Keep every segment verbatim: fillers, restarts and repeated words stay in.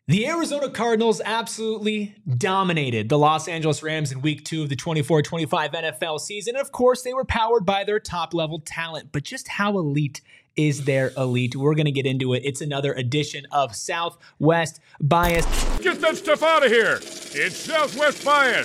The Arizona Cardinals absolutely dominated the Los Angeles Rams in week two of the twenty-four twenty-five N F L season. And of course, they were powered by their top-level talent. But just how elite is their elite? We're going to get into it. It's another edition of Southwest Bias. Get that stuff out of here. It's Southwest Bias.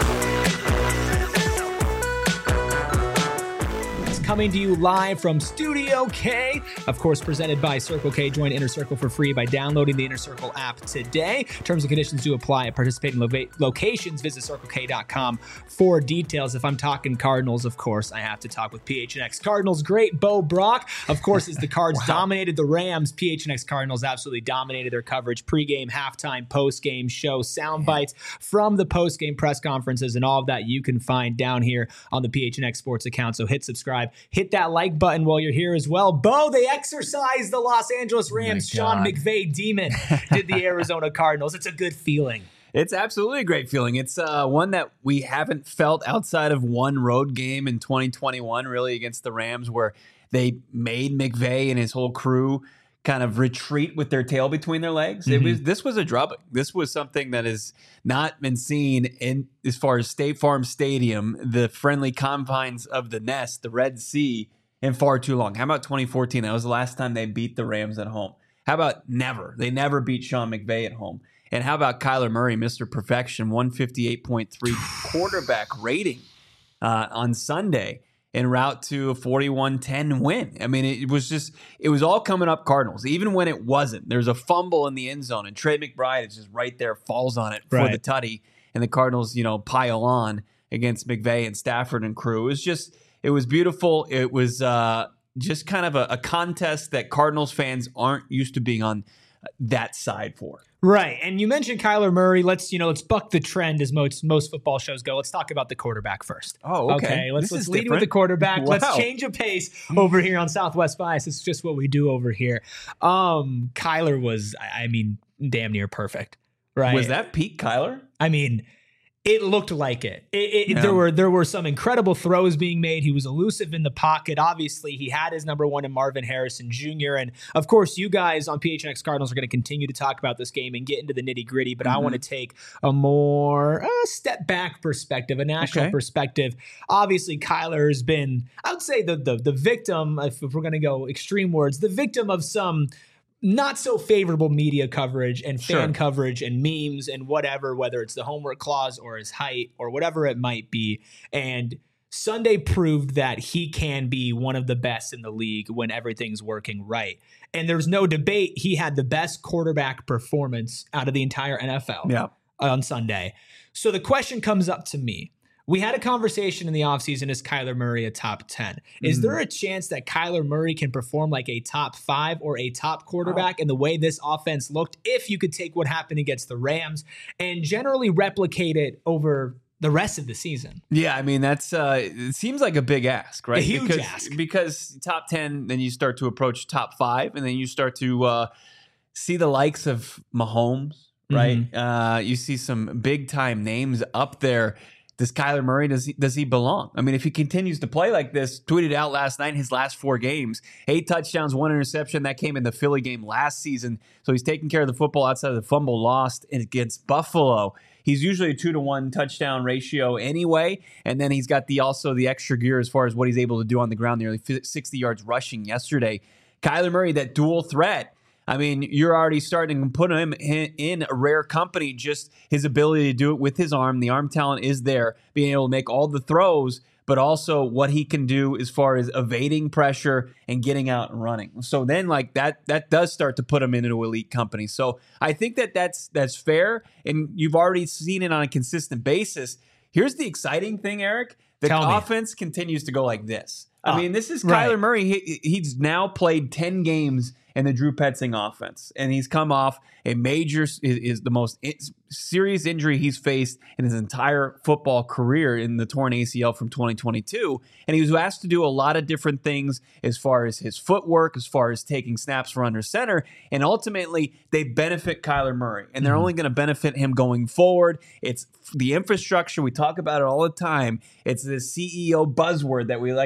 Coming to you live from Studio K, of course, presented by Circle K. Join Inner Circle for free by downloading the Inner Circle app today. Terms and conditions do apply at participating lo- locations. Visit circle k dot com for details. If I'm talking Cardinals, of course, I have to talk with P H N X Cardinals great Bo Brock. Of course, as the Cards wow. dominated the Rams, P H N X Cardinals absolutely dominated their coverage. Pre-game, halftime, post-game show, sound bites from the post-game press conferences, and all of that you can find down here on the P H N X Sports account. So hit subscribe. Hit that like button while you're here as well. Bo, they exercised the Los Angeles Rams. Oh Sean McVay demon did the Arizona Cardinals. It's a good feeling. It's absolutely a great feeling. It's uh, one that we haven't felt outside of one road game in twenty twenty-one, really, against the Rams, where they made McVay and his whole crew kind of retreat with their tail between their legs. Mm-hmm. It was this was a drubbing. This was something that has not been seen in as far as State Farm Stadium, the friendly confines of the Nest, the Red Sea, in far too long. How about twenty fourteen? That was the last time they beat the Rams at home. How about never? They never beat Sean McVay at home. And how about Kyler Murray, Mister Perfection, one fifty-eight point three quarterback rating uh, on Sunday, en route to a forty-one ten win. I mean, it was just, it was all coming up Cardinals, even when it wasn't. There's a fumble in the end zone, and Trey McBride is just right there, falls on it for right. the tutty, and the Cardinals, you know, pile on against McVay and Stafford and crew. It was just, it was beautiful. It was uh, just kind of a, a contest that Cardinals fans aren't used to being on that side for. Right. And you mentioned Kyler Murray. Let's, you know, let's buck the trend as most most football shows go. Let's talk about the quarterback first. Oh, okay. okay let's this let's is lead different. with the quarterback. Wow. Let's change a pace over here on Southwest Bias. It's just what we do over here. Um, Kyler was, I mean, damn near perfect. Right. Was that peak Kyler? I mean, it looked like it. it, it yeah. There were there were some incredible throws being made. He was elusive in the pocket. Obviously, he had his number one in Marvin Harrison Junior And, of course, you guys on P H N X Cardinals are going to continue to talk about this game and get into the nitty-gritty, but mm-hmm. I want to take a more uh, step-back perspective, a national okay. perspective. Obviously, Kyler has been, I would say, the, the, the victim, if, if we're going to go extreme words, the victim of some not so favorable media coverage and fan sure. coverage and memes and whatever, whether it's the homework clause or his height or whatever it might be. And Sunday proved that he can be one of the best in the league when everything's working right. And there's no debate. He had the best quarterback performance out of the entire N F L yeah. on Sunday. So the question comes up to me. We had a conversation in the offseason, is Kyler Murray a top ten? Is mm. there a chance that Kyler Murray can perform like a top five or a top quarterback oh. in the way this offense looked, if you could take what happened against the Rams and generally replicate it over the rest of the season? Yeah, I mean, that's uh, it seems like a big ask, right? A huge because, ask. Because top ten, then you start to approach top five, and then you start to uh, see the likes of Mahomes, right? Mm-hmm. Uh, you see some big-time names up there. Does Kyler Murray, does he, does he belong? I mean, if he continues to play like this, tweeted out last night, his last four games, eight touchdowns, one interception. That came in the Philly game last season. So he's taking care of the football outside of the fumble lost against Buffalo. He's usually a two to one touchdown ratio anyway. And then he's got the also the extra gear as far as what he's able to do on the ground, nearly sixty yards rushing yesterday. Kyler Murray, that dual threat. I mean, you're already starting to put him in a rare company, just his ability to do it with his arm. The arm talent is there, being able to make all the throws, but also what he can do as far as evading pressure and getting out and running. So then like that, that does start to put him into elite company. So I think that that's, that's fair. And you've already seen it on a consistent basis. Here's the exciting thing, Eric. The Tell offense me. continues to go like this. I uh, mean, this is Kyler right. Murray. He, he's now played ten games in the Drew Petzing offense, and he's come off a major is, is the most in, serious injury he's faced in his entire football career in the torn A C L from twenty twenty-two. And he was asked to do a lot of different things as far as his footwork, as far as taking snaps for under center, and ultimately they benefit Kyler Murray, and they're mm-hmm. only going to benefit him going forward. It's the infrastructure. We talk about it all the time. It's the C E O buzzword that we like to use.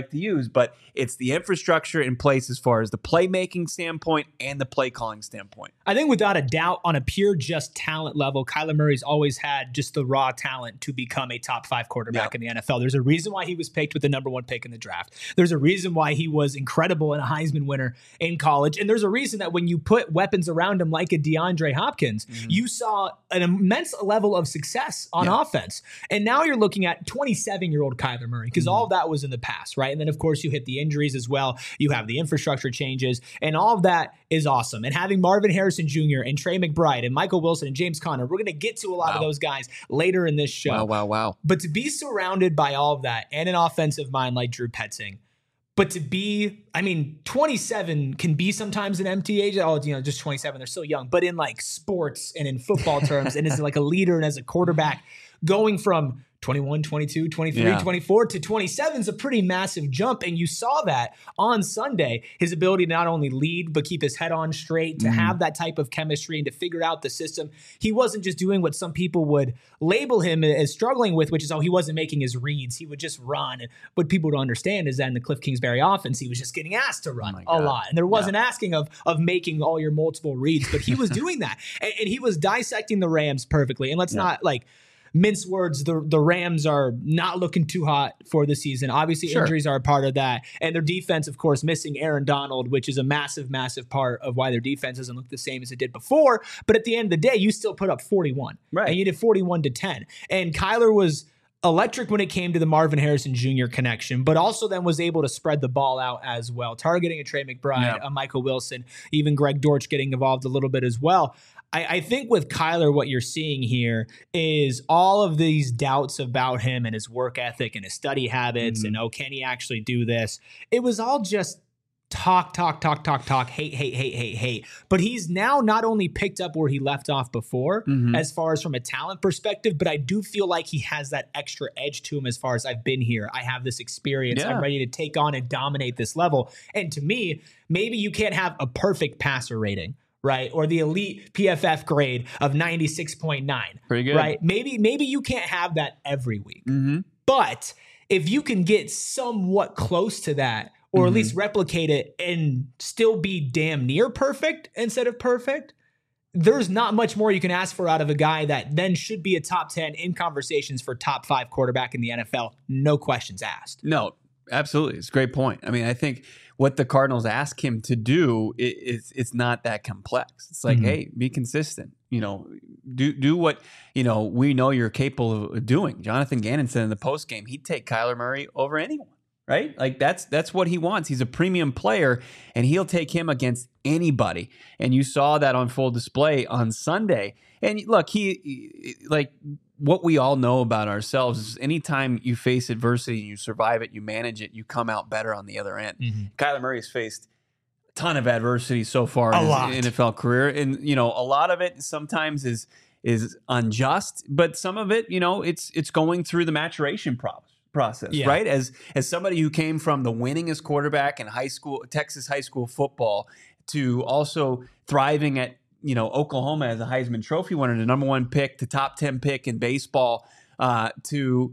teams, but it's the infrastructure in place as far as the playmaking standpoint and the play calling standpoint. I think without a doubt, on a pure just talent level, Kyler Murray's always had just the raw talent to become a top five quarterback yeah. in the N F L. There's a reason why he was picked with the number one pick in the draft. There's a reason why he was incredible and a Heisman winner in college. And there's a reason that when you put weapons around him like a DeAndre Hopkins, mm-hmm. you saw an immense level of success on yeah. offense. And now you're looking at twenty-seven-year-old Kyler Murray, because mm-hmm. all of that was in the past, right? And then, of course, you hit the injuries as well. You have the infrastructure changes, and all of that is awesome. And having Marvin Harrison Junior and Trey McBride and Michael Wilson and James Conner, we're going to get to a lot wow. of those guys later in this show. Wow, wow, wow. But to be surrounded by all of that and an offensive mind like Drew Petzing, but to be, I mean, twenty-seven can be sometimes an empty age. Oh, you know, just twenty-seven, they're so young. But in like sports and in football terms, and as like a leader and as a quarterback, going from twenty-one, twenty-two, twenty-three, yeah. twenty-four to twenty-seven is a pretty massive jump. And you saw that on Sunday, his ability to not only lead, but keep his head on straight, to mm-hmm. have that type of chemistry and to figure out the system. He wasn't just doing what some people would label him as struggling with, which is, oh, he wasn't making his reads. He would just run. And what people don't understand is that in the Cliff Kingsbury offense, he was just getting asked to run oh a lot. And there wasn't yeah. asking of, of making all your multiple reads, but he was doing that. And, and he was dissecting the Rams perfectly. And let's yeah. not like, mince words, the, the Rams are not looking too hot for the season. Obviously, sure. injuries are a part of that. And their defense, of course, missing Aaron Donald, which is a massive, massive part of why their defense doesn't look the same as it did before. But at the end of the day, you still put up forty-one. Right. And you did forty-one to ten. And Kyler was electric when it came to the Marvin Harrison Junior connection, but also then was able to spread the ball out as well, targeting a Trey McBride, yeah. a Michael Wilson, even Greg Dortch getting involved a little bit as well. I, I think with Kyler, what you're seeing here is all of these doubts about him and his work ethic and his study habits mm-hmm. and, oh, can he actually do this? It was all just talk, talk, talk, talk, talk, hate, hate, hate, hate, hate. But he's now not only picked up where he left off before, mm-hmm. as far as from a talent perspective, but I do feel like he has that extra edge to him as far as I've been here. I have this experience. Yeah. I'm ready to take on and dominate this level. And to me, maybe you can't have a perfect passer rating, right? Or the elite P F F grade of ninety-six point nine. Pretty good. Right? Maybe, maybe you can't have that every week. Mm-hmm. But if you can get somewhat close to that, or mm-hmm. at least replicate it and still be damn near perfect instead of perfect, there's not much more you can ask for out of a guy that then should be a top ten in conversations for top five quarterback in the N F L. No questions asked. No, absolutely. It's a great point. I mean, I think what the Cardinals ask him to do is it's not that complex. It's like, mm-hmm. hey, be consistent. You know, do do what, you know, we know you're capable of doing. Jonathan Gannon said in the postgame, he'd take Kyler Murray over anyone. Right? Like that's that's what he wants. He's a premium player, and he'll take him against anybody. And you saw that on full display on Sunday. And look, he like what we all know about ourselves is anytime you face adversity and you survive it, you manage it, you come out better on the other end. Mm-hmm. Kyler Murray's faced a ton of adversity so far in a his N F L career. And, you know, a lot of it sometimes is is unjust, but some of it, you know, it's it's going through the maturation process. process, yeah. right? As as somebody who came from the winningest quarterback in high school, Texas high school football, to also thriving at, you know, Oklahoma as a Heisman Trophy winner, the number one pick, the top ten pick in baseball, uh, to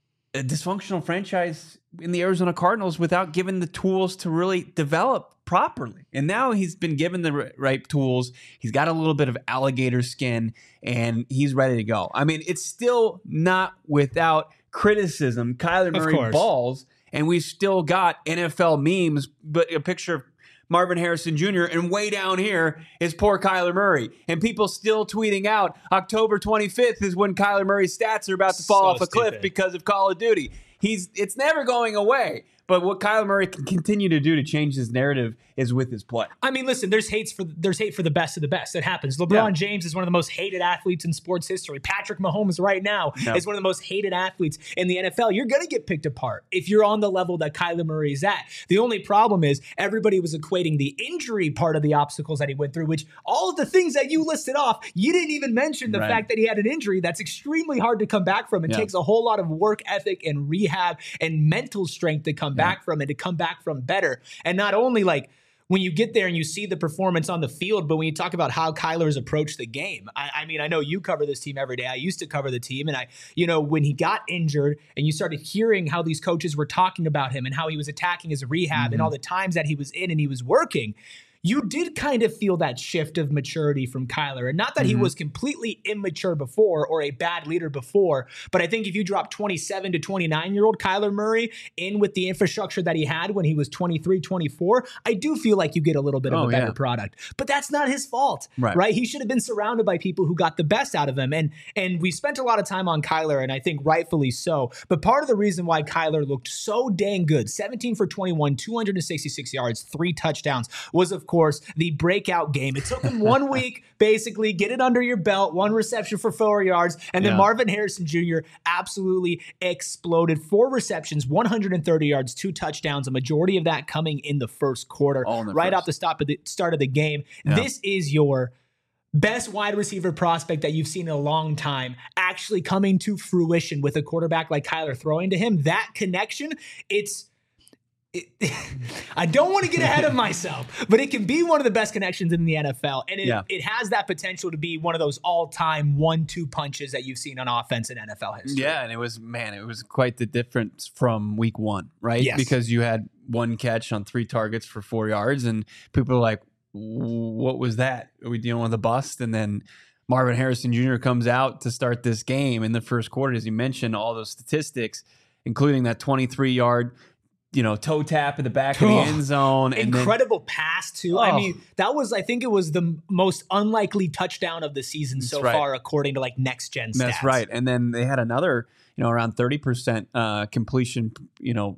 a dysfunctional franchise in the Arizona Cardinals without given the tools to really develop properly. And now he's been given the right tools. He's got a little bit of alligator skin, and he's ready to go. I mean, it's still not without criticism. Kyler Murray balls, and we've still got N F L memes, but a picture of Marvin Harrison Junior and way down here is poor Kyler Murray. And people still tweeting out October twenty-fifth is when Kyler Murray's stats are about to fall so off a stupid. cliff because of Call of Duty. He's it's never going away. But what Kyler Murray can continue to do to change his narrative is with his play. I mean, listen, there's hates for there's hate for the best of the best. It happens. LeBron yeah. James is one of the most hated athletes in sports history. Patrick Mahomes right now no. is one of the most hated athletes in the N F L. You're going to get picked apart if you're on the level that Kyler Murray is at. The only problem is everybody was equating the injury part of the obstacles that he went through, which all of the things that you listed off, you didn't even mention the right. fact that he had an injury that's extremely hard to come back from. It yeah. takes a whole lot of work ethic and rehab and mental strength to come yeah. back from and to come back from better. And not only like when you get there and you see the performance on the field, but when you talk about how Kyler's approached the game, I, I mean, I know you cover this team every day. I used to cover the team, and I, you know, when he got injured and you started hearing how these coaches were talking about him and how he was attacking his rehab mm-hmm. and all the times that he was in and he was working, you did kind of feel that shift of maturity from Kyler. And not that mm-hmm. he was completely immature before or a bad leader before, but I think if you drop twenty-seven to twenty-nine-year-old Kyler Murray in with the infrastructure that he had when he was twenty-three, twenty-four, I do feel like you get a little bit of oh, a better yeah. product. But that's not his fault, right. right? He should have been surrounded by people who got the best out of him. And, and we spent a lot of time on Kyler, and I think rightfully so. But part of the reason why Kyler looked so dang good, seventeen for twenty-one, two hundred sixty-six yards, three touchdowns, was, of course, the breakout game. It took him one week, basically, get it under your belt, one reception for four yards, and then yeah. Marvin Harrison Junior absolutely exploded. Four receptions, one hundred thirty yards, two touchdowns, a majority of that coming in the first quarter, the right first. off the stop of the start of the game. Yeah. This is your best wide receiver prospect that you've seen in a long time actually coming to fruition with a quarterback like Kyler throwing to him. That connection, it's It, I don't want to get ahead of myself, but it can be one of the best connections in the N F L. And it, yeah. it has that potential to be one of those all-time one two punches that you've seen on offense in N F L history. Yeah, and it was, man, it was quite the difference from week one, right? Yes. Because you had one catch on three targets for four yards, and people were like, what was that? Are we dealing with a bust? And then Marvin Harrison Junior comes out to start this game in the first quarter, as you mentioned, all those statistics, including that twenty-three-yard you know, toe tap in the back of the end zone. And Incredible then, pass, too. Oh. I mean, that was, I think it was the most unlikely touchdown of the season That's so right. far, according to like next gen stats. That's right. And then they had another, you know, around thirty percent uh, completion, you know,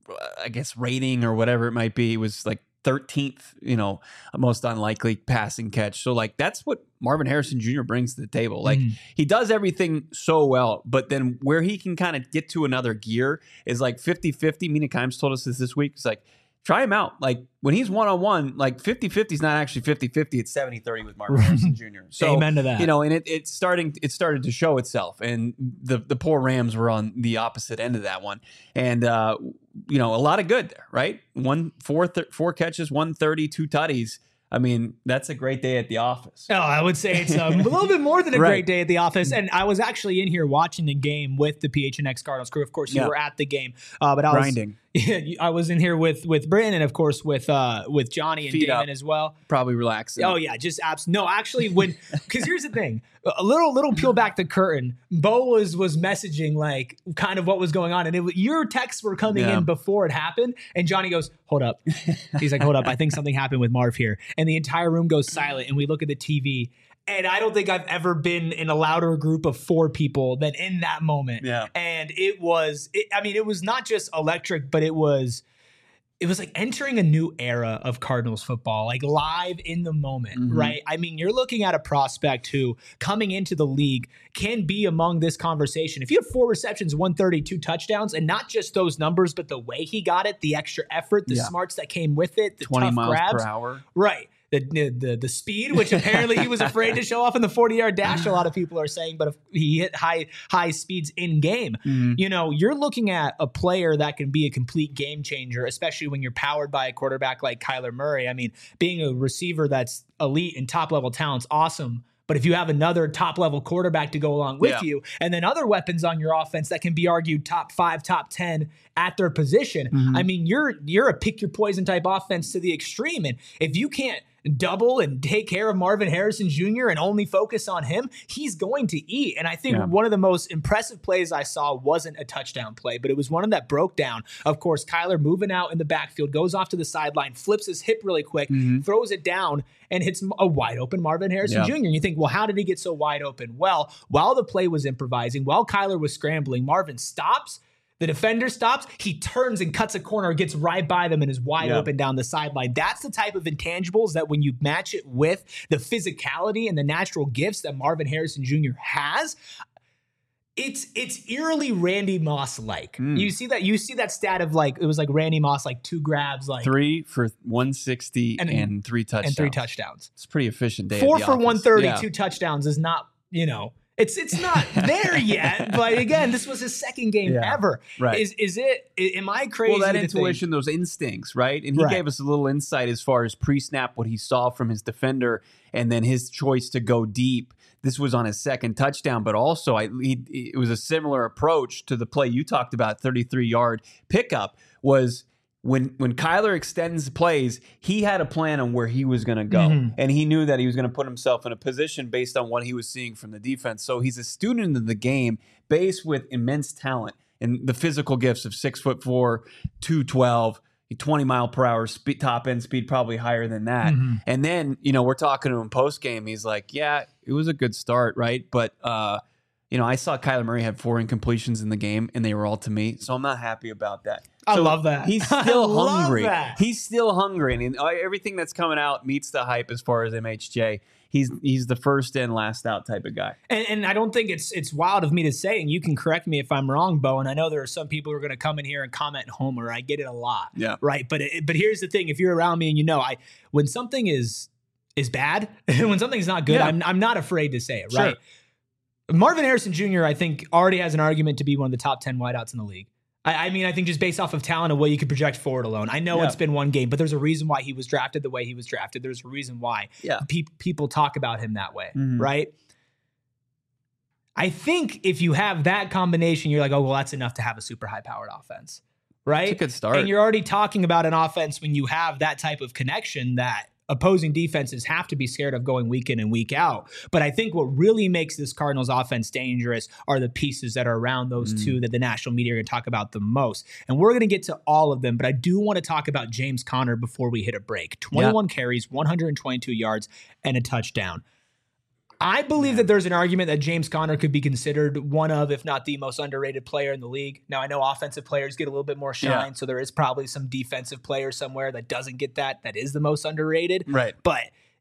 I guess rating or whatever it might be. It was like thirteenth, you know, most unlikely passing catch. So like, that's what Marvin Harrison Junior brings to the table. Like mm. he does everything so well, but then where he can kind of get to another gear is like fifty-fifty. Mina Kimes told us this this week. It's like, try him out. Like when he's one-on-one, like fifty-fifty is not actually fifty-fifty. It's seventy-thirty with Marvin Harrison Junior So, amen to that. You know, and it, it's starting, it started to show itself. And the, the poor Rams were on the opposite end of that one. And, uh, you know, a lot of good there, right? One, four, th- four catches, one thirty, two tutties. I mean, that's a great day at the office. Oh, I would say it's um, a little bit more than a right. great day at the office. And I was actually in here watching the game with the P H N X Cardinals crew. Of course, you yeah. were at the game, uh, but I was grinding. Yeah, I was in here with with Brandon, and of course with uh, with Johnny and Feet Damon up. as well. Probably relaxing. Oh yeah, just abs. No, actually, when because here's the thing, a little little peel back the curtain. Bo was was messaging like kind of what was going on, and it, your texts were coming yeah. in before it happened. And Johnny goes, "Hold up," he's like, "Hold up, I think something happened with Marv here." And the entire room goes silent, and we look at the T V. And I don't think I've ever been in a louder group of four people than in that moment. Yeah. And it was, it, I mean, it was not just electric, but it was, it was like entering a new era of Cardinals football, like live in the moment, mm-hmm. right? I mean, you're looking at a prospect who coming into the league can be among this conversation. If you have four receptions, one thirty-two touchdowns, and not just those numbers, but the way he got it, the extra effort, the yeah. smarts that came with it, the twenty tough miles grabs. per hour. Right. The, the the speed, which apparently he was afraid to show off in the forty-yard dash, a lot of people are saying, but if he hit high high speeds in game. Mm-hmm. You know, you're looking at a player that can be a complete game changer, especially when you're powered by a quarterback like Kyler Murray. I mean, being a receiver that's elite and top-level talent's awesome, but if you have another top-level quarterback to go along with yeah. you, and then other weapons on your offense that can be argued top five, top ten at their position, mm-hmm. I mean, you're you're a pick-your-poison type offense to the extreme. And if you can't double and take care of Marvin Harrison Junior and only focus on him, he's going to eat. And I think yeah. one of the most impressive plays I saw wasn't a touchdown play, but it was one that broke down. Of course, Kyler moving out in the backfield, goes off to the sideline, flips his hip really quick, mm-hmm. throws it down, and hits a wide open Marvin Harrison yeah. Junior And you think, well, how did he get so wide open? Well, while the play was improvising, while Kyler was scrambling, Marvin stops. The defender stops, he turns and cuts a corner, gets right by them and is wide yeah. open down the sideline. That's the type of intangibles that when you match it with the physicality and the natural gifts that Marvin Harrison Junior has, it's it's eerily Randy Moss-like. Mm. You see that you see that stat of like, it was like Randy Moss, like two grabs, like three for one sixty and, and three touchdowns. And three touchdowns. It's a pretty efficient day. Four at the for office. one thirty, yeah. two touchdowns is not, you know, It's it's not there yet, but again, this was his second game Yeah, ever. right. Is is it? Am I crazy? Well, that to intuition, think, those instincts, right? And he Right. gave us a little insight as far as pre-snap, what he saw from his defender, and then his choice to go deep. This was on his second touchdown, but also I, he, it was a similar approach to the play you talked about, thirty-three yard pickup, was when when Kyler extends plays, he had a plan on where he was going to go. Mhm. And he knew that he was going to put himself in a position based on what he was seeing from the defense. So he's a student of the game, based with immense talent and the physical gifts of six foot four, two twelve, twenty mile per hour speed, top end speed, probably higher than that. Mhm. And then, you know, we're talking to him post game. He's like, yeah, it was a good start, right? But, uh, you know, I saw Kyler Murray had four incompletions in the game, and they were all to me. So I'm not happy about that. I So love that. He's I still love hungry. that. He's still hungry, and uh, everything that's coming out meets the hype as far as M H J. He's he's the first in, last out type of guy. And, and I don't think it's it's wild of me to say, and you can correct me if I'm wrong, Bo. And I know there are some people who are going to come in here and comment Homer. I get it a lot, Yeah. right? But it, but here's the thing: if you're around me and you know, I when something is is bad, when something's not good, Yeah. I'm I'm not afraid to say it, Sure. right? Marvin Harrison Junior, I think, already has an argument to be one of the top ten wideouts in the league. I, I mean, I think just based off of talent and what you could project forward alone. I know Yeah. it's been one game, but there's a reason why he was drafted the way he was drafted. There's a reason why Yeah. pe- people talk about him that way, Mhm. right? I think if you have that combination, you're like, oh, well, that's enough to have a super high-powered offense, right? It's a good start. And you're already talking about an offense when you have that type of connection that opposing defenses have to be scared of going week in and week out. But I think what really makes this Cardinals offense dangerous are the pieces that are around those Mm. two that the national media are going to talk about the most. And we're going to get to all of them, but I do want to talk about James Conner before we hit a break. twenty-one carries, one hundred twenty-two yards, and a touchdown. I believe that there's an argument that James Conner could be considered one of, if not the most underrated player in the league. Now, I know offensive players get a little bit more shine, Yeah. so there is probably some defensive player somewhere that doesn't get that, that is the most underrated. Right. But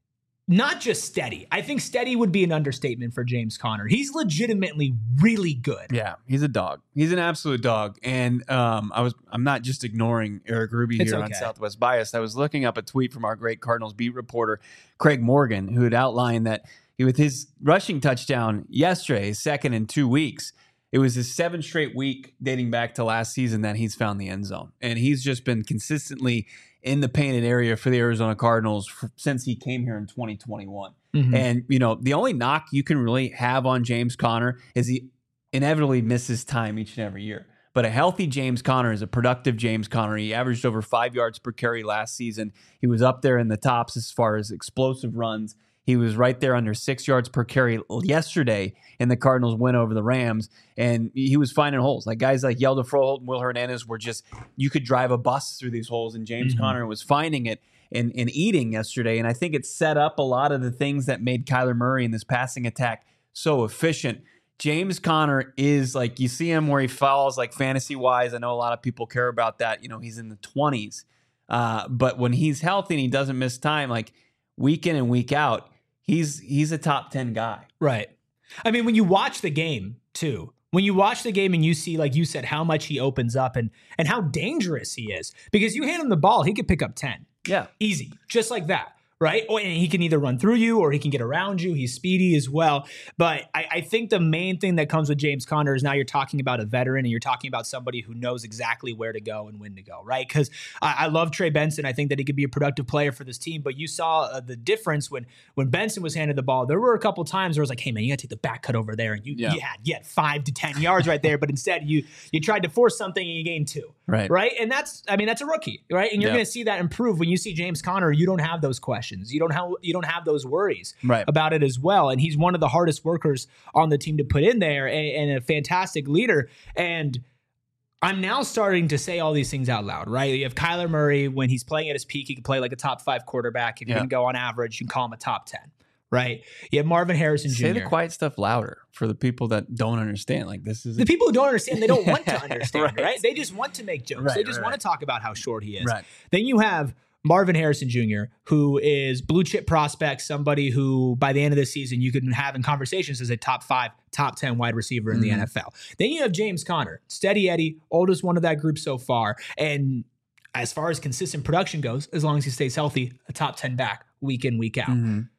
not just steady. I think steady would be an understatement for James Conner. He's legitimately really good. Yeah, he's a dog. He's an absolute dog. And um, I was I'm not just ignoring Eric Ruby It's here on okay. Southwest Bias. I was looking up a tweet from our great Cardinals beat reporter Craig Morgan, who had outlined that he, with his rushing touchdown yesterday, his second in two weeks, it was his seventh straight week dating back to last season that he's found the end zone. And he's just been consistently in the painted area for the Arizona Cardinals f- since he came here in twenty twenty-one. Mhm. And, you know, the only knock you can really have on James Conner is he inevitably misses time each and every year. But a healthy James Conner is a productive James Conner. He averaged over five yards per carry last season. He was up there in the tops as far as explosive runs. He was right there under six yards per carry yesterday in the Cardinals' win over the Rams, and he was finding holes. Like guys like Yelda Froholt and Will Hernandez were just, you could drive a bus through these holes, and James Mhm. Conner was finding it and, and eating yesterday. And I think it set up a lot of the things that made Kyler Murray in this passing attack so efficient. James Conner is like, you see him where he falls, like fantasy-wise. I know a lot of people care about that. You know, he's in the twenties. Uh, but when he's healthy and he doesn't miss time, like week in and week out, he's he's a top ten guy. Right. I mean, when you watch the game too, when you watch the game and you see, like you said, how much he opens up and and how dangerous he is, because you hand him the ball, he could pick up ten. Yeah. Easy. Just like that. Right. Or, and he can either run through you or he can get around you. He's speedy as well. But I, I think the main thing that comes with James Conner is now you're talking about a veteran and you're talking about somebody who knows exactly where to go and when to go. Right. Because I, I love Trey Benson. I think that he could be a productive player for this team. But you saw uh, the difference when when Benson was handed the ball. There were a couple times where it was like, hey, man, you got to take the back cut over there. And you, Yeah. you, had, you had five to ten yards right there. But instead, you you tried to force something and you gained two. Right. Right. And that's, I mean, that's a rookie. Right. And you're Yeah. going to see that improve when you see James Conner. You don't have those questions. You don't have you don't have those worries Right. about it as well. And he's one of the hardest workers on the team to put in there and, and a fantastic leader. And I'm now starting to say all these things out loud, right? You have Kyler Murray, when he's playing at his peak, he can play like a top five quarterback. If Yeah. you're going to go on average, you can call him a top ten, right? You have Marvin Harrison Say Junior the quiet stuff louder for the people that don't understand. Like this is The people who don't understand, they don't want to understand, Right. right. They just want to make jokes. Right, they just right, want right. to talk about how short he is. Right. Then you have Marvin Harrison Junior, who is blue chip prospect, somebody who by the end of the season you can have in conversations as a top five, top ten wide receiver in the Mhm. N F L. Then you have James Conner, steady Eddie, oldest one of that group so far. And as far as consistent production goes, as long as he stays healthy, a top ten back week in, week out. Mhm.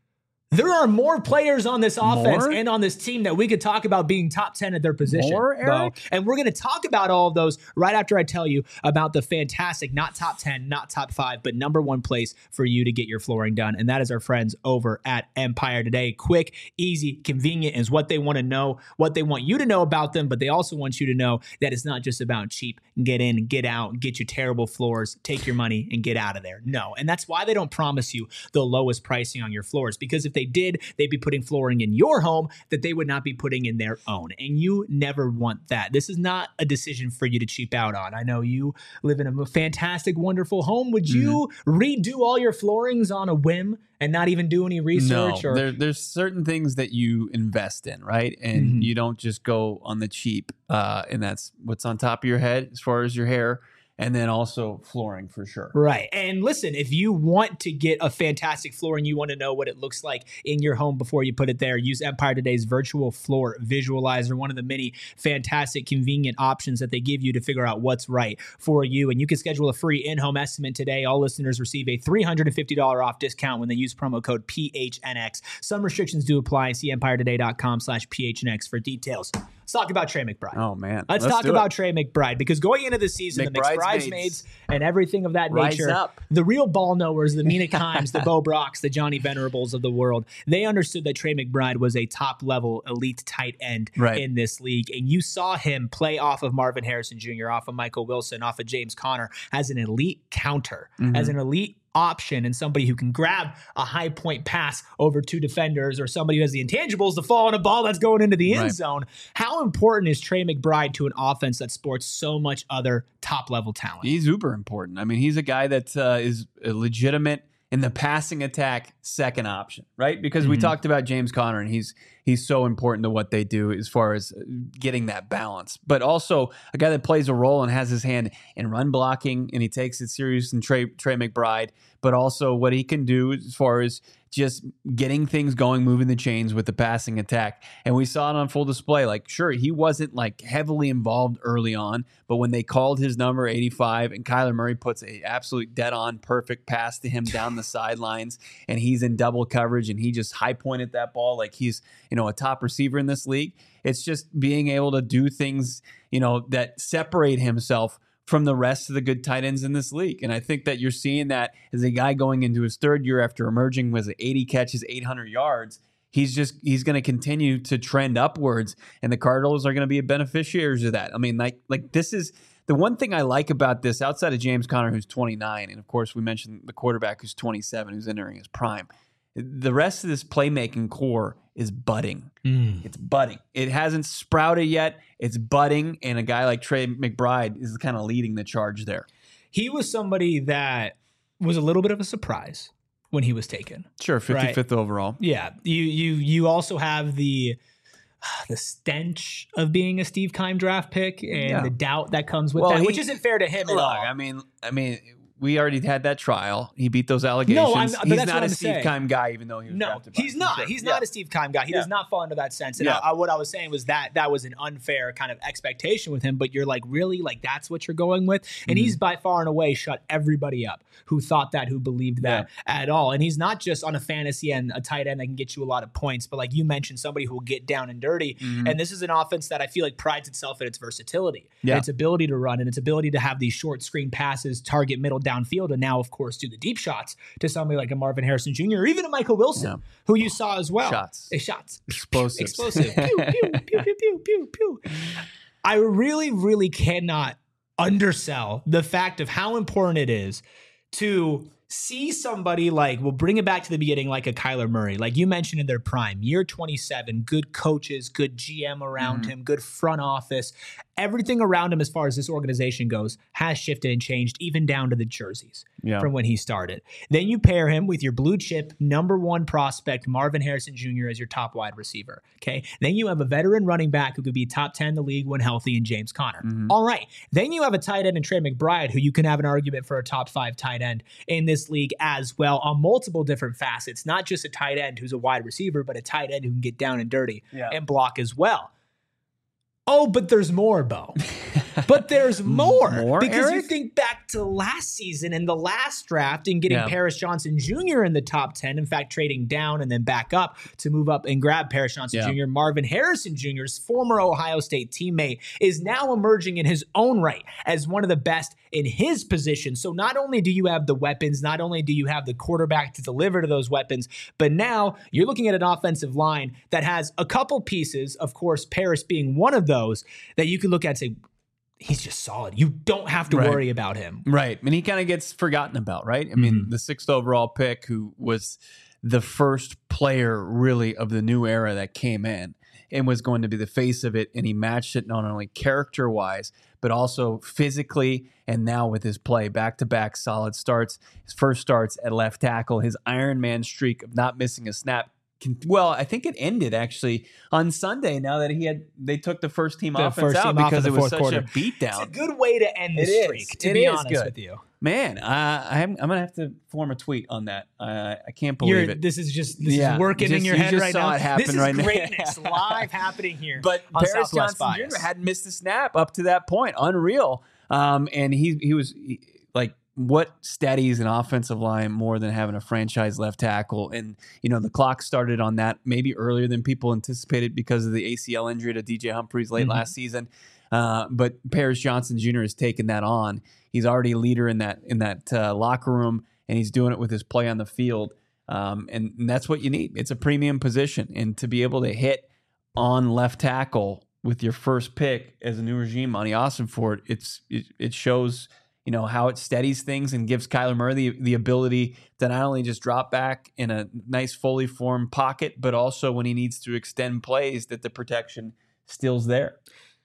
There are more players on this offense More? and on this team that we could talk about being top ten at their position. More, Eric? Bo. And we're going to talk about all of those right after I tell you about the fantastic, not top ten, not top five, but number one place for you to get your flooring done. And that is our friends over at Empire Today. Quick, easy, convenient is what they want to know, what they want you to know about them, but they also want you to know that it's not just about cheap, get in, get out, get your terrible floors, take your money and get out of there. No. And that's why they don't promise you the lowest pricing on your floors, because if they did, they'd be putting flooring in your home that they would not be putting in their own. And you never want that. This is not a decision for you to cheap out on. I know you live in a fantastic, wonderful home. Would you mm-hmm. redo all your floorings on a whim and not even do any research? No, or there, there's certain things that you invest in, right? And mm-hmm. you don't just go on the cheap. Uh, and that's what's on top of your head as far as your hair. And then also flooring for sure. Right. And listen, if you want to get a fantastic floor and you want to know what it looks like in your home before you put it there, use Empire Today's virtual floor visualizer, one of the many fantastic, convenient options that they give you to figure out what's right for you. And you can schedule a free in-home estimate today. All listeners receive a three hundred fifty dollars off discount when they use promo code P H N X. Some restrictions do apply. See empire today dot com slash P H N X for details. Let's talk about Trey McBride. Oh, man. Let's, Let's talk about it. Trey McBride, because going into the season, McBride's the bridesmaids and everything of that Rise nature, up. the real ball knowers, the Mina Kimes, the Bo Brocks, the Johnny Venerables of the world, they understood that Trey McBride was a top-level elite tight end right. in this league. And you saw him play off of Marvin Harrison Junior, off of Michael Wilson, off of James Conner as an elite counter, mm-hmm. as an elite option, and somebody who can grab a high point pass over two defenders, or somebody who has the intangibles to fall on a ball that's going into the end right. zone. How important is Trey McBride to an offense that sports so much other top level talent? He's uber important. I mean, he's a guy that uh, is a legitimate in the passing attack second option, right? Because mm-hmm. we talked about James Conner, and he's he's so important to what they do as far as getting that balance. But also a guy that plays a role and has his hand in run blocking, and he takes it serious in Trey, Trey McBride, but also what he can do as far as just getting things going, moving the chains with the passing attack. And we saw it on full display. Like, sure, he wasn't like heavily involved early on, but when they called his number eighty-five and Kyler Murray puts a absolute dead on perfect pass to him down the sidelines, and he's in double coverage and he just high pointed that ball like he's, you know, a top receiver in this league. It's just being able to do things, you know, that separate himself from the rest of the good tight ends in this league. And I think that you're seeing that as a guy going into his third year after emerging with eighty catches, eight hundred yards. He's just, he's going to continue to trend upwards, and the Cardinals are going to be beneficiaries of that. I mean, like, like this is the one thing I like about this outside of James Conner, who's twenty-nine. And of course we mentioned the quarterback who's twenty-seven, who's entering his prime. The rest of this playmaking core is budding. Mm. It's budding. It hasn't sprouted yet. It's budding. And a guy like Trey McBride is kind of leading the charge there. He was somebody that was a little bit of a surprise when he was taken. Sure, fifty-fifth right? overall. Yeah. You you you also have the the stench of being a Steve Keim draft pick and yeah. the doubt that comes with well, that, he, which isn't fair to him look, at all. I mean, I mean, we already had that trial. He beat those allegations. No, I'm, he's not a I'm Steve saying. Keim guy, even though he was no, drafted by he's not. Sure. He's yeah. not a Steve Keim guy. He yeah. does not fall into that sense. And yeah. I, I, what I was saying was that that was an unfair kind of expectation with him. But you're like, really? Like, that's what you're going with? And mm-hmm. he's by far and away shut everybody up who thought that, who believed that yeah. at all. And he's not just on a fantasy and a tight end that can get you a lot of points, but like you mentioned, somebody who will get down and dirty. Mm-hmm. And this is an offense that I feel like prides itself in its versatility, yeah. and its ability to run, and its ability to have these short screen passes, target middle downfield, and now, of course, do the deep shots to somebody like a Marvin Harrison Junior or even a Michael Wilson, yeah. who you saw as well. Shots. Uh, shots. Explosive. Explosive. pew, pew, pew, pew, pew, pew, pew. I really, really cannot undersell the fact of how important it is to see somebody like, we'll bring it back to the beginning, like a Kyler Murray, like you mentioned in their prime, year twenty-seven, good coaches, good G M around mm-hmm. him, good front office. Everything around him as far as this organization goes has shifted and changed, even down to the jerseys yeah. from when he started. Then you pair him with your blue chip number one prospect, Marvin Harrison Junior as your top wide receiver. Okay. Then you have a veteran running back who could be top ten in the league when healthy in James Conner. Mm-hmm. All right. Then you have a tight end in Trey McBride, who you can have an argument for a top five tight end in this league as well on multiple different facets, not just a tight end who's a wide receiver, but a tight end who can get down and dirty yeah. and block as well. Oh, but there's more, Bo. But there's more. More, because Eric? you think back to last season and the last draft and getting Yeah. Paris Johnson Junior in the top ten, in fact, trading down and then back up to move up and grab Paris Johnson Yeah. Junior Marvin Harrison Junior's former Ohio State teammate is now emerging in his own right as one of the best in his position. So not only do you have the weapons, not only do you have the quarterback to deliver to those weapons, but now you're looking at an offensive line that has a couple pieces, of course, Paris being one of those, that you can look at and say, he's just solid. You don't have to Right. worry about him. Right. And he kind of gets forgotten about, right? I mean, Mm-hmm. the sixth overall pick, who was the first player really of the new era that came in and was going to be the face of it. And he matched it not only character wise, but also physically. And now with his play, back to back solid starts, his first starts at left tackle, his Iron Man streak of not missing a snap. Can, well, I think it ended actually on Sunday. Now that he had, they took the first team The offense first out team off in because the it was fourth such quarter. a beatdown. It's a good way to end the It is. streak, to It be is honest good. with you. Man, uh, I'm, I'm gonna have to form a tweet on that. Uh, I can't believe You're, it. this is just this Yeah, is working just- in your you head just right saw now. it happen this is right now. greatness live happening here. But on Paris Southwest Johnson Bias. Junior hadn't missed a snap up to that point. Unreal. Um, and he he was he, like, what steadies an offensive line more than having a franchise left tackle? And you know, the clock started on that maybe earlier than people anticipated because of the A C L injury to D J Humphries late Mhm. last season. Uh, but Paris Johnson Junior has taken that on. He's already a leader in that in that uh, locker room, and he's doing it with his play on the field. Um, and, and that's what you need. It's a premium position, and to be able to hit on left tackle with your first pick as a new regime, Monty Austinford, it's it, it shows, you know, how it steadies things and gives Kyler Murray the, the ability to not only just drop back in a nice fully formed pocket, but also when he needs to extend plays, that the protection still's there.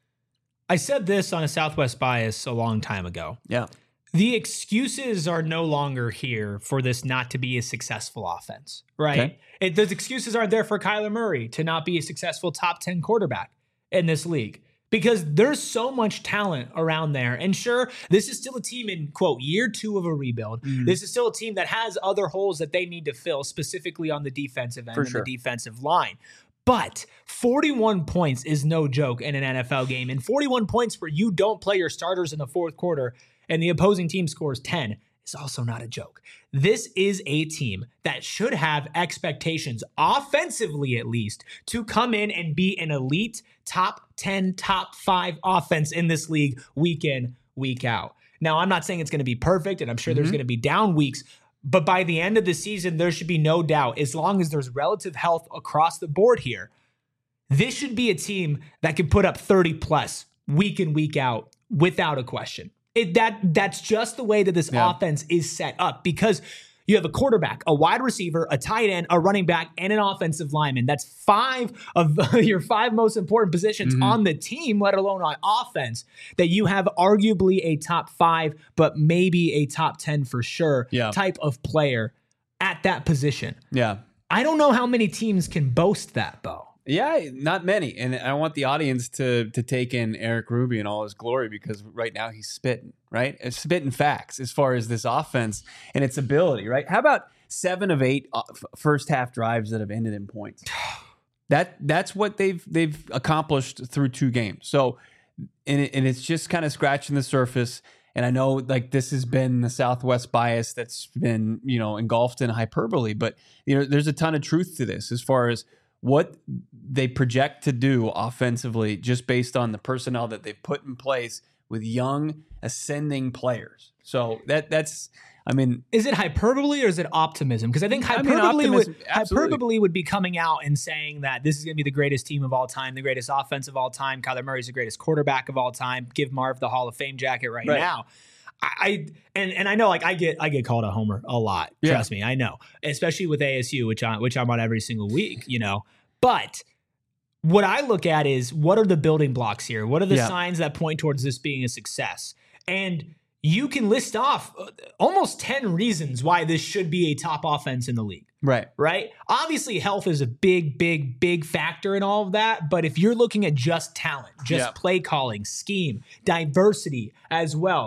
I said this on a Southwest Bias a long time ago. Yeah. The excuses are no longer here for this not to be a successful offense, right? Okay. It, those excuses aren't there for Kyler Murray to not be a successful top ten quarterback in this league, because there's so much talent around there. And sure, this is still a team in, quote, year two of a rebuild. Mhm. This is still a team that has other holes that they need to fill, specifically on the defensive end For and sure. the defensive line. But forty-one points is no joke in an N F L game. And forty-one points where you don't play your starters in the fourth quarter and the opposing team scores ten is also not a joke. This is a team that should have expectations, offensively at least, to come in and be an elite top ten, top five offense in this league week in, week out. Now, I'm not saying it's going to be perfect, and I'm sure there's Mhm. going to be down weeks, but by the end of the season, there should be no doubt, as long as there's relative health across the board here, this should be a team that can put up thirty plus week in, week out without a question. It, that That's just the way that this Yeah. offense is set up, because you have a quarterback, a wide receiver, a tight end, a running back, and an offensive lineman. That's five of your five most important positions Mhm. on the team, let alone on offense, that you have arguably a top five, but maybe a top ten for sure Yeah. type of player at that position. Yeah. I don't know how many teams can boast that, Bo. Yeah, not many. And I want the audience to to take in Eric Ruby in all his glory, because right now he's spitting, right? It's spitting facts as far as this offense and its ability, right? How about seven of eight uh, f- first half drives that have ended in points? That that's what they've they've accomplished through two games. So, and, it, and it's just kind of scratching the surface. And I know, like, this has been the Southwest bias that's been, you know, engulfed in hyperbole, but you know, there's a ton of truth to this as far as what they project to do offensively, just based on the personnel that they've put in place with young ascending players. So that that's, I mean, Is it hyperbole or is it optimism? Because I think I mean, hyperbole, optimism, would, absolutely. hyperbole would be coming out and saying that this is going to be the greatest team of all time, the greatest offense of all time. Kyler Murray's the greatest quarterback of all time. Give Marv the Hall of Fame jacket right, Right. now. I, I and and I know, like, I get I get called a homer a lot. Yeah. Trust me, I know, especially with A S U, which I which I'm on every single week. You know, but what I look at is, what are the building blocks here? What are the Yeah. signs that point towards this being a success? And you can list off uh, almost ten reasons why this should be a top offense in the league, right. right? Obviously, health is a big, big, big factor in all of that. But if you're looking at just talent, just Yeah. play calling, scheme, diversity as well,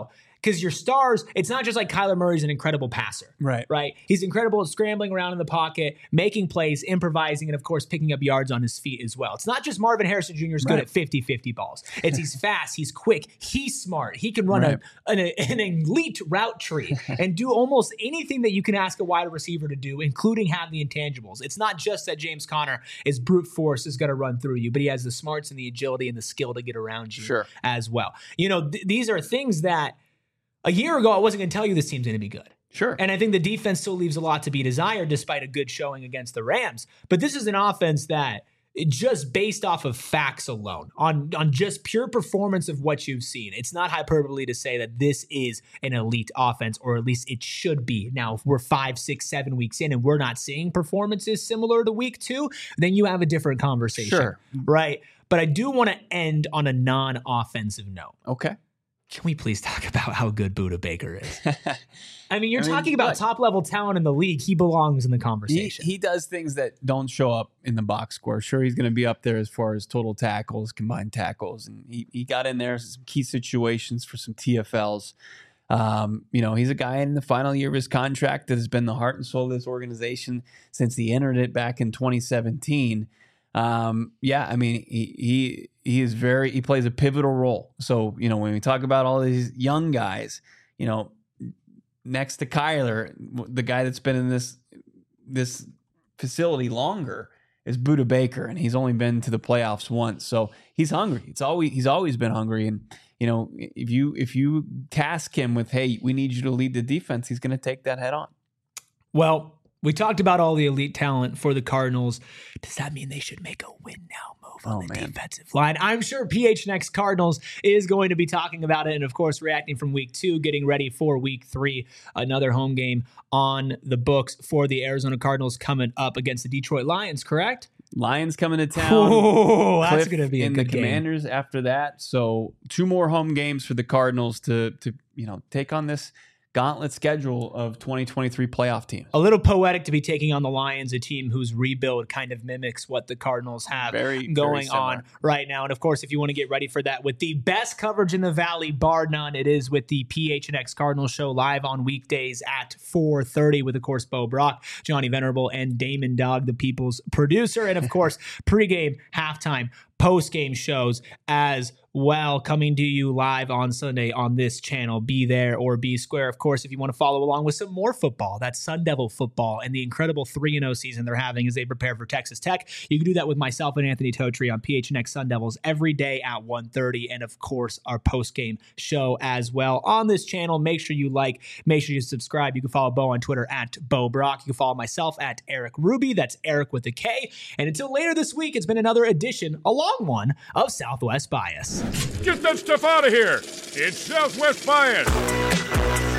because your stars, it's not just like Kyler Murray's an incredible passer. Right. Right. He's incredible at scrambling around in the pocket, making plays, improvising, and of course, picking up yards on his feet as well. It's not just Marvin Harrison Junior is good Right. at fifty-fifty balls. It's he's fast, he's quick, he's smart. He can run Right. a, an, an elite route tree and do almost anything that you can ask a wide receiver to do, including have the intangibles. It's not just that James Conner is brute force is going to run through you, but he has the smarts and the agility and the skill to get around you Sure. as well. You know, th- these are things that a year ago I wasn't going to tell you this team's going to be good. Sure. And I think the defense still leaves a lot to be desired despite a good showing against the Rams. But this is an offense that just based off of facts alone, on, on just pure performance of what you've seen, it's not hyperbole to say that this is an elite offense, or at least it should be. Now, if we're five, six, seven weeks in and we're not seeing performances similar to week two, then you have a different conversation. Sure. Right? But I do want to end on a non-offensive note. Okay. Can we please talk about how good Budda Baker is? I mean, you're I mean, talking about look, top-level talent in the league. He belongs in the He, conversation. he does things that don't show up in the box score. Sure, he's going to be up there as far as total tackles, combined tackles, and he, he got in there some key situations for some T F Ls. Um, you know, he's a guy in the final year of his contract that has been the heart and soul of this organization since he entered it back in twenty seventeen. Um, yeah, I mean, he, he he is very he plays a pivotal role. So, you know, when we talk about all these young guys, you know, next to Kyler, the guy that's been in this this facility longer is Budda Baker, and he's only been to the playoffs once. So he's hungry. It's always he's always been hungry. And you know, if you if you task him with, hey, we need you to lead the defense, he's going to take that head on. Well, we talked about all the elite talent for the Cardinals. Does that mean they should make a win now move on Oh, the man. defensive line? I'm sure P H N X Cardinals is going to be talking about it and, of course, reacting from week two, getting ready for week three. Another home game on the books for the Arizona Cardinals coming up against the Detroit Lions, correct? Lions coming to town. Oh, that's Cliff going to be a and good the game. Commanders after that. So two more home games for the Cardinals to to you know take on this gauntlet schedule of twenty twenty-three playoff teams. A little poetic to be taking on the Lions, a team whose rebuild kind of mimics what the Cardinals have Very, going very on similar. right now. And of course, if you want to get ready for that with the best coverage in the Valley, bar none, it is with the P H N X Cardinals show live on weekdays at four thirty with, of course, Bo Brock, Johnny Venerable, and Damon Dog, the people's producer. And of course, pregame, halftime, post-game shows as well, coming to you live on Sunday on this channel. Be there or be square. Of course, if you want to follow along with some more football, that's Sun Devil football and the incredible three and oh season they're having as they prepare for Texas Tech. You can do that with myself and Anthony Totri on P H N X Sun Devils every day at one thirty, and of course, our post-game show as well on this channel. Make sure you like, make sure you subscribe. You can follow Bo on Twitter at Bo Brock. You can follow myself at Eric Ruby. That's Eric with a K. And until later this week, it's been another edition, a long one, of Southwest Bias. Get that stuff out of here. It's Southwest Bias.